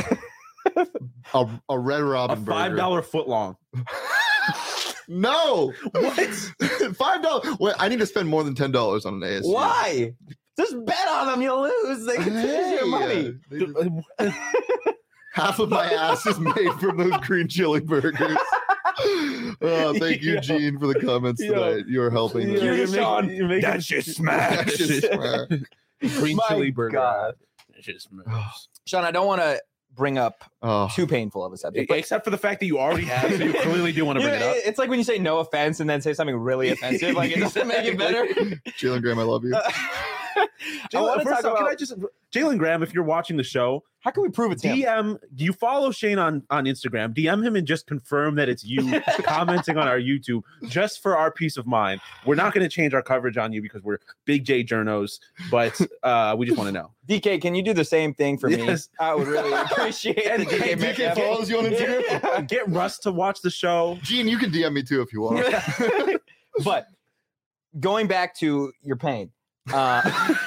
Speaker 2: A, a Red
Speaker 3: a
Speaker 2: Robin
Speaker 3: five
Speaker 2: burger.
Speaker 3: dollar foot long.
Speaker 2: No,
Speaker 3: What?
Speaker 2: five dollars. Wait, I need to spend more than ten dollars on an A S U.
Speaker 1: Why? Just bet on them. You'll lose. They can
Speaker 2: Hey,
Speaker 1: your money.
Speaker 2: uh, they- half of my ass is made from those green chili burgers. Oh, thank you,
Speaker 3: Yo.
Speaker 2: Gene, for the comments
Speaker 3: Yo.
Speaker 2: tonight. You're helping.
Speaker 3: Yeah,
Speaker 2: us.
Speaker 1: You're
Speaker 3: you're
Speaker 1: Sean.
Speaker 3: making- you're making-
Speaker 1: That shit smacks.
Speaker 2: That's just smart.
Speaker 3: Green
Speaker 1: My
Speaker 3: chili burger.
Speaker 1: God.
Speaker 3: It just moves.
Speaker 1: Sean, I don't want to bring up
Speaker 2: Oh,
Speaker 1: too painful of a subject. But
Speaker 3: Except for the fact that you already have, so you clearly do want to
Speaker 1: you
Speaker 3: bring
Speaker 1: know,
Speaker 3: it up.
Speaker 1: It's like when you say no offense and then say something really offensive. Like it doesn't make it better.
Speaker 2: Jalen Graham, I love you.
Speaker 1: I
Speaker 3: Jalen,
Speaker 1: want to
Speaker 3: first
Speaker 1: talk
Speaker 3: off,
Speaker 1: about
Speaker 3: can I just Jalen Graham, if you're watching the show,
Speaker 1: how can we prove it's him?
Speaker 3: D M. Do you follow Shane on on Instagram? D M him and just confirm that it's you commenting on our YouTube, just for our peace of mind. We're not going to change our coverage on you because we're big J journos, but uh, we just want to know.
Speaker 1: D K, can you do the same thing for
Speaker 3: Yes.
Speaker 1: me? I would really appreciate
Speaker 3: And
Speaker 1: the D K.
Speaker 3: D K
Speaker 1: Metcalf.
Speaker 2: follows you on Instagram?
Speaker 1: Yeah.
Speaker 3: Get Russ to watch the show.
Speaker 2: Gene, you can D M me too if you want.
Speaker 1: But going back to your pain. Uh,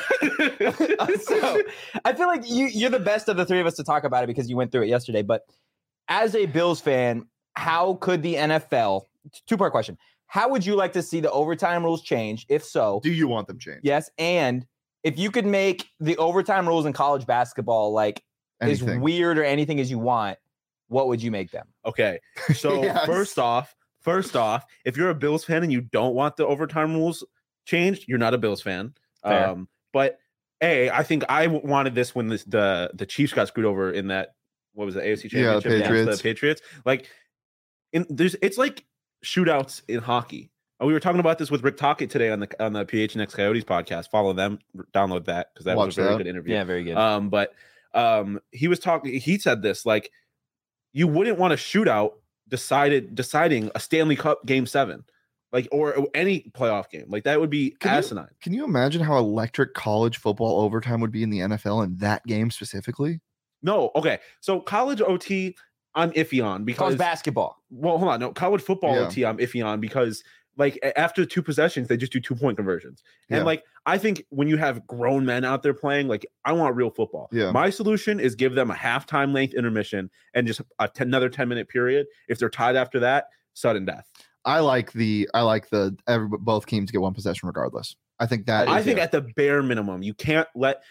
Speaker 1: so I feel like you, you're the best of the three of us to talk about it because you went through it yesterday. But as a Bills fan, how could the N F L, two part question, how would you like to see the overtime rules change? If so,
Speaker 2: Do you want them changed?
Speaker 1: yes. And if you could make the overtime rules in college basketball like
Speaker 2: Anything.
Speaker 1: as weird or anything as you want, what would you make them?
Speaker 3: Okay, so
Speaker 2: Yes.
Speaker 3: first off, first off, if you're a Bills fan and you don't want the overtime rules changed, you're not a Bills fan.
Speaker 1: Fair.
Speaker 3: Um, but A, I think I w- wanted this when this, the the Chiefs got screwed over in that, what was it, A F C
Speaker 2: Yeah, the
Speaker 3: Championship against
Speaker 2: Patriots.
Speaker 3: the Patriots. Like, in there's it's like shootouts in hockey. Uh, We were talking about this with Rick Tocchet today on the on the P H N X Coyotes podcast. Follow them, download that because that
Speaker 2: Watch
Speaker 3: was a very
Speaker 2: that.
Speaker 3: good interview.
Speaker 1: Yeah, very good.
Speaker 3: Um, but um, he was talking. He said this like, you wouldn't want a shootout decided deciding a Stanley Cup Game Seven, like or any playoff game. Like that would be
Speaker 2: Can you-
Speaker 3: asinine.
Speaker 2: Can you imagine how electric college football overtime would be in the N F L in that game specifically?
Speaker 3: No, okay. So college O T, I'm iffy on
Speaker 1: College
Speaker 3: because
Speaker 1: basketball.
Speaker 3: well, hold on. No, college football
Speaker 2: Yeah.
Speaker 3: O T, I'm iffy on because like a- after two possessions, they just do two point conversions. And
Speaker 2: Yeah.
Speaker 3: like I think when you have grown men out there playing, like I want real football.
Speaker 2: Yeah.
Speaker 3: My solution is give them a halftime length intermission and just a ten, another ten minute period. If they're tied after that, sudden death.
Speaker 2: I like the I like the every, both teams get one possession regardless. I think that
Speaker 3: I
Speaker 2: is
Speaker 3: think
Speaker 2: it.
Speaker 3: at the bare minimum, you can't let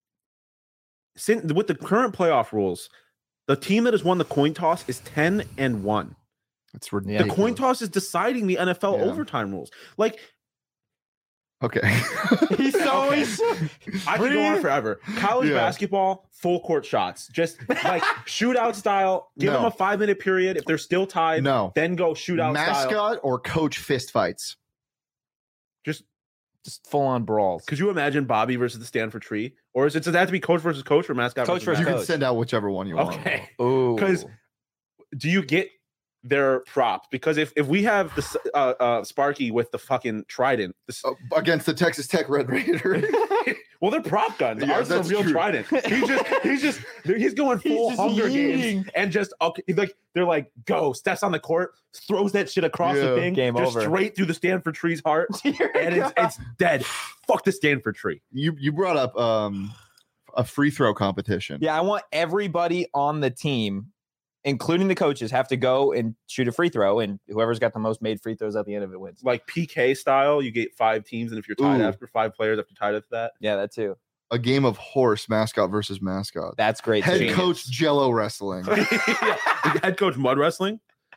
Speaker 3: since with the current playoff rules, the team that has won the coin toss is ten and one.
Speaker 2: it's
Speaker 3: The
Speaker 2: ridiculous.
Speaker 3: coin toss is deciding the N F L
Speaker 2: Yeah.
Speaker 3: overtime rules. Like
Speaker 2: Okay.
Speaker 1: He's so
Speaker 3: Okay.
Speaker 1: he's so-
Speaker 3: I could go on
Speaker 1: Breathe.
Speaker 3: forever. College
Speaker 2: Yeah.
Speaker 3: basketball, full court shots, just like shootout style. Give
Speaker 2: No.
Speaker 3: them a five minute period. If they're still tied,
Speaker 2: No.
Speaker 3: then go shootout
Speaker 2: Mascot
Speaker 3: style.
Speaker 2: or coach fist fights.
Speaker 3: Just
Speaker 1: just full on brawls.
Speaker 3: could you imagine Bobby versus the Stanford Tree, or is it does that have to be coach versus coach or mascot?
Speaker 1: Coach
Speaker 3: versus
Speaker 1: versus
Speaker 2: You
Speaker 3: mascot?
Speaker 2: can
Speaker 1: coach.
Speaker 2: send out whichever one you want.
Speaker 3: Okay.
Speaker 1: Ooh.
Speaker 3: 'Cause- Do you get their props? Because if if we have the s- uh, uh, Sparky with the fucking trident, this,
Speaker 2: Uh, against the Texas Tech Red Raider.
Speaker 3: well, they're prop guns.
Speaker 2: Yeah,
Speaker 3: Ours is a
Speaker 2: that's
Speaker 3: real
Speaker 2: true.
Speaker 3: trident. He's just he's just he's going full
Speaker 1: just
Speaker 3: Hunger Games
Speaker 1: yeeting.
Speaker 3: and just okay, he's like they're like go steps on the court, throws that shit across the
Speaker 2: Yeah.
Speaker 3: thing,
Speaker 1: Game
Speaker 3: just
Speaker 1: over.
Speaker 3: straight through the Stanford Tree's heart, and it's it's dead. Fuck the Stanford Tree.
Speaker 2: you you brought up um a free throw competition.
Speaker 1: Yeah, I want everybody on the team, including the coaches, have to go and shoot a free throw, and whoever's got the most made free throws at the end of it wins.
Speaker 3: Like P K style, you get five teams, and if you're tied
Speaker 2: Ooh.
Speaker 3: after five players after tied after that,
Speaker 1: Yeah, that too.
Speaker 2: A game of horse mascot versus mascot.
Speaker 1: That's great.
Speaker 2: Head
Speaker 1: too.
Speaker 2: coach Jello wrestling.
Speaker 3: Yeah. Head coach mud wrestling.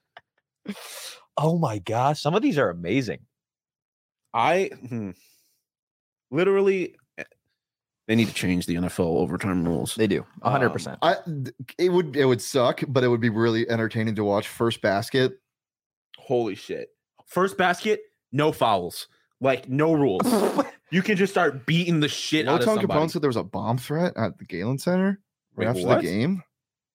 Speaker 1: Oh my gosh, some of these are amazing.
Speaker 3: I hmm, literally eh, they need to change the N F L overtime rules.
Speaker 1: They do, a hundred
Speaker 3: Um,
Speaker 1: percent.
Speaker 2: I it would it would suck, but it would be really entertaining to watch. First basket.
Speaker 3: Holy shit! First basket, no fouls, like no rules. You can just start beating the shit out of
Speaker 2: Loton
Speaker 3: somebody.
Speaker 2: Capone said there was a bomb threat at the Galen Center
Speaker 3: Wait,
Speaker 2: right after
Speaker 3: what?
Speaker 2: the game.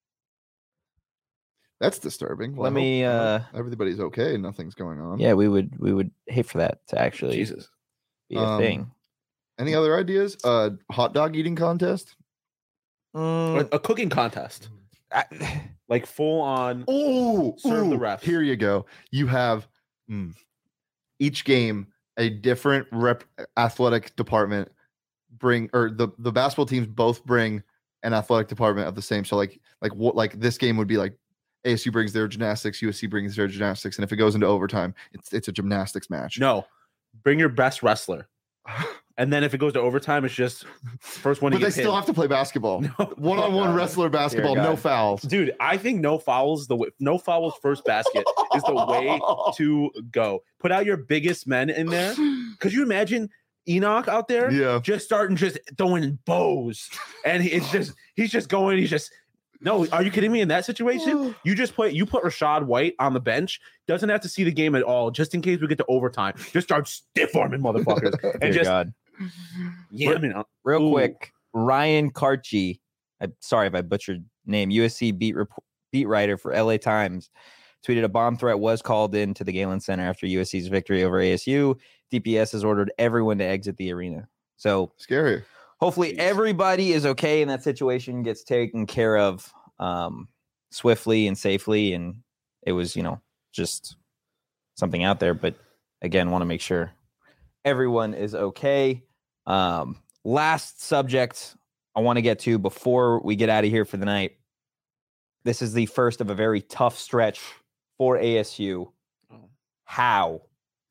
Speaker 2: That's disturbing. Well,
Speaker 1: Let
Speaker 2: I
Speaker 1: me,
Speaker 2: hope- I
Speaker 1: uh,
Speaker 2: hope everybody's okay. Nothing's going on.
Speaker 1: Yeah, we would we would hate for that to actually
Speaker 3: Jesus.
Speaker 1: be a
Speaker 2: Um,
Speaker 1: thing.
Speaker 2: Any other ideas? Uh, hot dog eating contest.
Speaker 1: Mm,
Speaker 3: A, a cooking contest,
Speaker 1: I-
Speaker 3: like full on.
Speaker 2: Oh,
Speaker 3: Serve the refs.
Speaker 2: Here you go. You have mm, each game a different rep athletic department bring, or the the basketball teams both bring an athletic department of the same. So like like what like this game would be like A S U brings their gymnastics, U S C brings their gymnastics, and if it goes into overtime, it's it's a gymnastics match.
Speaker 3: No, bring your best wrestler, and then if it goes to overtime, it's just first one.
Speaker 2: but
Speaker 3: to
Speaker 2: they
Speaker 3: get
Speaker 2: still
Speaker 3: pinned.
Speaker 2: have to play basketball.
Speaker 3: No.
Speaker 2: One on one
Speaker 1: God.
Speaker 2: wrestler basketball, no
Speaker 1: God.
Speaker 2: fouls.
Speaker 3: Dude, I think no fouls. The way, no fouls first basket is the way to go. Put out your biggest men in there. Could you imagine Enoch out there,
Speaker 2: Yeah.
Speaker 3: just starting just throwing bows, and he- it's just he's just going. He's just no. Are you kidding me? In that situation, you just put you put Rashad White on the bench. Doesn't have to see the game at all, just in case we get to overtime. Just start stiff arming motherfuckers and
Speaker 1: Dear
Speaker 3: just
Speaker 1: God.
Speaker 3: yeah. I mean, uh,
Speaker 1: Real
Speaker 3: Ooh.
Speaker 1: quick, Ryan Karchi, I'm sorry if I butchered name, U S C beat rep- beat writer for L A Times, tweeted a bomb threat was called into the Galen Center after U S C's victory over A S U. D P S has ordered everyone to exit the arena. So
Speaker 2: Scary.
Speaker 1: hopefully
Speaker 3: Jeez.
Speaker 1: everybody is okay in that situation, gets taken care of um, swiftly and safely. And it was, you know, just something out there. But again, want to make sure everyone is okay. Um, last subject I want to get to before we get out of here for the night. This is the first of a very tough stretch for A S U.
Speaker 3: Oh.
Speaker 1: How?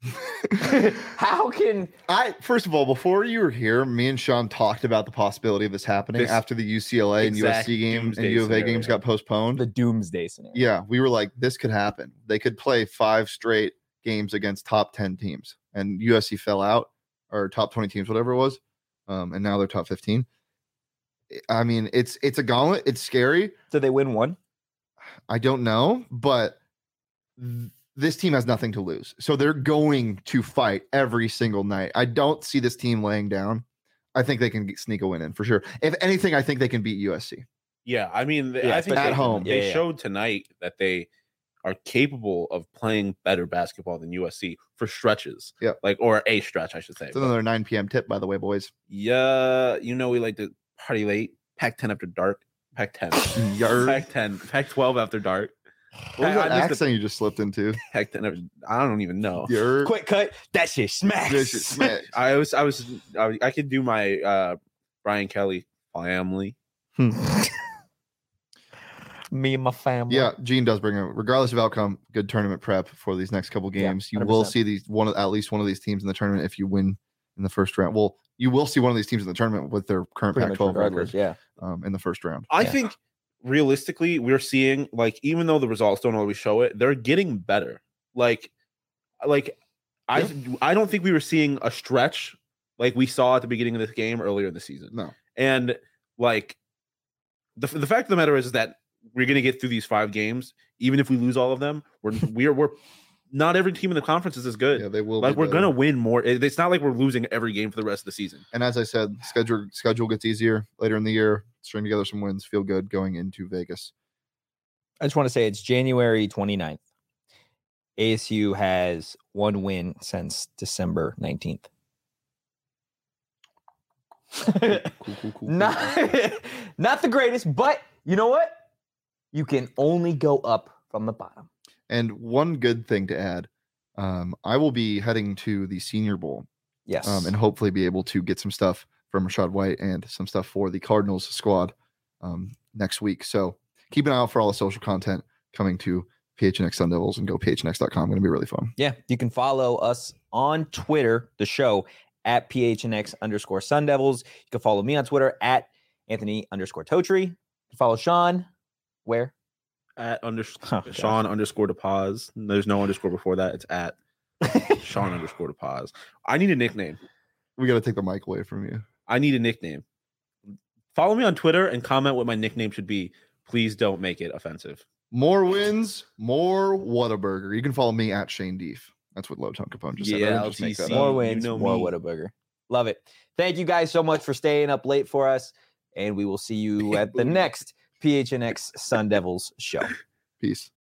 Speaker 1: How can
Speaker 2: I first of all, before you were here, me and Sean talked about the possibility of this happening
Speaker 3: This
Speaker 2: after the U C L A and U S
Speaker 3: exact
Speaker 2: C game and
Speaker 3: doomsday
Speaker 2: U of A
Speaker 3: scenario.
Speaker 2: games got postponed?
Speaker 1: the doomsday scenario?
Speaker 2: Yeah, we were like, this could happen. They could play five straight games against top ten teams, and U S C fell out, or top twenty teams, whatever it was, um, and now they're top fifteen. I mean, it's it's a gauntlet. It's scary.
Speaker 1: Did they win one?
Speaker 2: I don't know, but th- this team has nothing to lose, so they're going to fight every single night. I don't see this team laying down. I think they can get, sneak a win in for sure. If anything, I think they can beat U S C.
Speaker 3: Yeah, I mean,
Speaker 1: Yeah,
Speaker 3: I think
Speaker 2: at
Speaker 3: they,
Speaker 2: home.
Speaker 3: they
Speaker 1: Yeah, yeah.
Speaker 3: showed tonight that they are capable of playing better basketball than U S C for stretches.
Speaker 2: Yeah.
Speaker 3: like or a stretch, I should say.
Speaker 2: It's another nine p.m. tip, by the way, boys.
Speaker 3: Yeah, you know we like to party late. Pac ten after dark. Pac ten.
Speaker 2: Yarr.
Speaker 3: Pac ten. Pac twelve after dark.
Speaker 2: What was
Speaker 3: I-
Speaker 2: that
Speaker 3: I missed
Speaker 2: accent you just slipped into?
Speaker 3: Pac ten. after- I don't even know.
Speaker 2: Yarr.
Speaker 1: Quick cut. That shit smacks.
Speaker 2: This is smack.
Speaker 3: I was. I was. I, I could do my uh Brian Kelly family.
Speaker 1: Me and my family.
Speaker 2: Yeah, Gene does bring it. Regardless of outcome, good tournament prep for these next couple
Speaker 1: Yeah,
Speaker 2: games. you
Speaker 1: one hundred
Speaker 2: will
Speaker 1: percent.
Speaker 2: see these one of- at least one of these teams in the tournament if you win in the first round. Well, you will see one of these teams in the tournament with their current
Speaker 1: Pretty
Speaker 2: Pac
Speaker 1: much
Speaker 2: twelve
Speaker 1: regardless.
Speaker 2: record
Speaker 1: Yeah.
Speaker 2: um, in the first round.
Speaker 3: I
Speaker 1: Yeah.
Speaker 3: think realistically, we're seeing like even though the results don't always show it, they're getting better. Like, like I I don't think we were seeing a stretch like we saw at the beginning of this game earlier in the season.
Speaker 2: No,
Speaker 3: And like the the fact of the matter is, is that we're gonna get through these five games, even if we lose all of them. We're we're we're not every team in the conference is as good.
Speaker 2: yeah, they will.
Speaker 3: like
Speaker 2: be
Speaker 3: we're
Speaker 2: better.
Speaker 3: gonna win more. It- It's not like we're losing every game for the rest of the season.
Speaker 2: And as I said, schedule schedule gets easier later in the year. String together some wins, feel good going into Vegas.
Speaker 1: I just want to say it's January twenty-ninth. A S U has one win since December nineteenth.
Speaker 2: Cool, cool, cool, cool.
Speaker 1: not, not the greatest, but you know what? You can only go up from the bottom.
Speaker 2: And one good thing to add, um, I will be heading to the Senior Bowl
Speaker 1: Yes.
Speaker 2: um, and hopefully be able to get some stuff from Rashad White and some stuff for the Cardinals squad um, next week. So keep an eye out for all the social content coming to P H N X Sun Devils and go P H N X dot com. Going to be really fun.
Speaker 1: Yeah, you can follow us on Twitter, the show, at P H N X underscore Sun Devils. You can follow me on Twitter at Anthony underscore Totri. You can follow Sean where?
Speaker 3: At under
Speaker 1: Oh, God.
Speaker 3: Sean underscore to pause. There's no underscore before that. It's at Sean underscore to pause. I need a nickname.
Speaker 2: We got to take the mic away from you.
Speaker 3: I need a nickname. Follow me on Twitter and comment what my nickname should be. Please don't make it offensive.
Speaker 2: More wins, more Whataburger. You can follow me at Shane Deef. That's what Low Tone Capone just said. I
Speaker 3: Yeah,
Speaker 2: didn't just make that
Speaker 3: L T C.
Speaker 2: up.
Speaker 1: More
Speaker 3: you
Speaker 1: wins,
Speaker 3: know
Speaker 1: more
Speaker 3: me.
Speaker 1: Whataburger. Love it. Thank you guys so much for staying up late for us. And we will see you at the next P H N X Sun Devils show.
Speaker 2: Peace.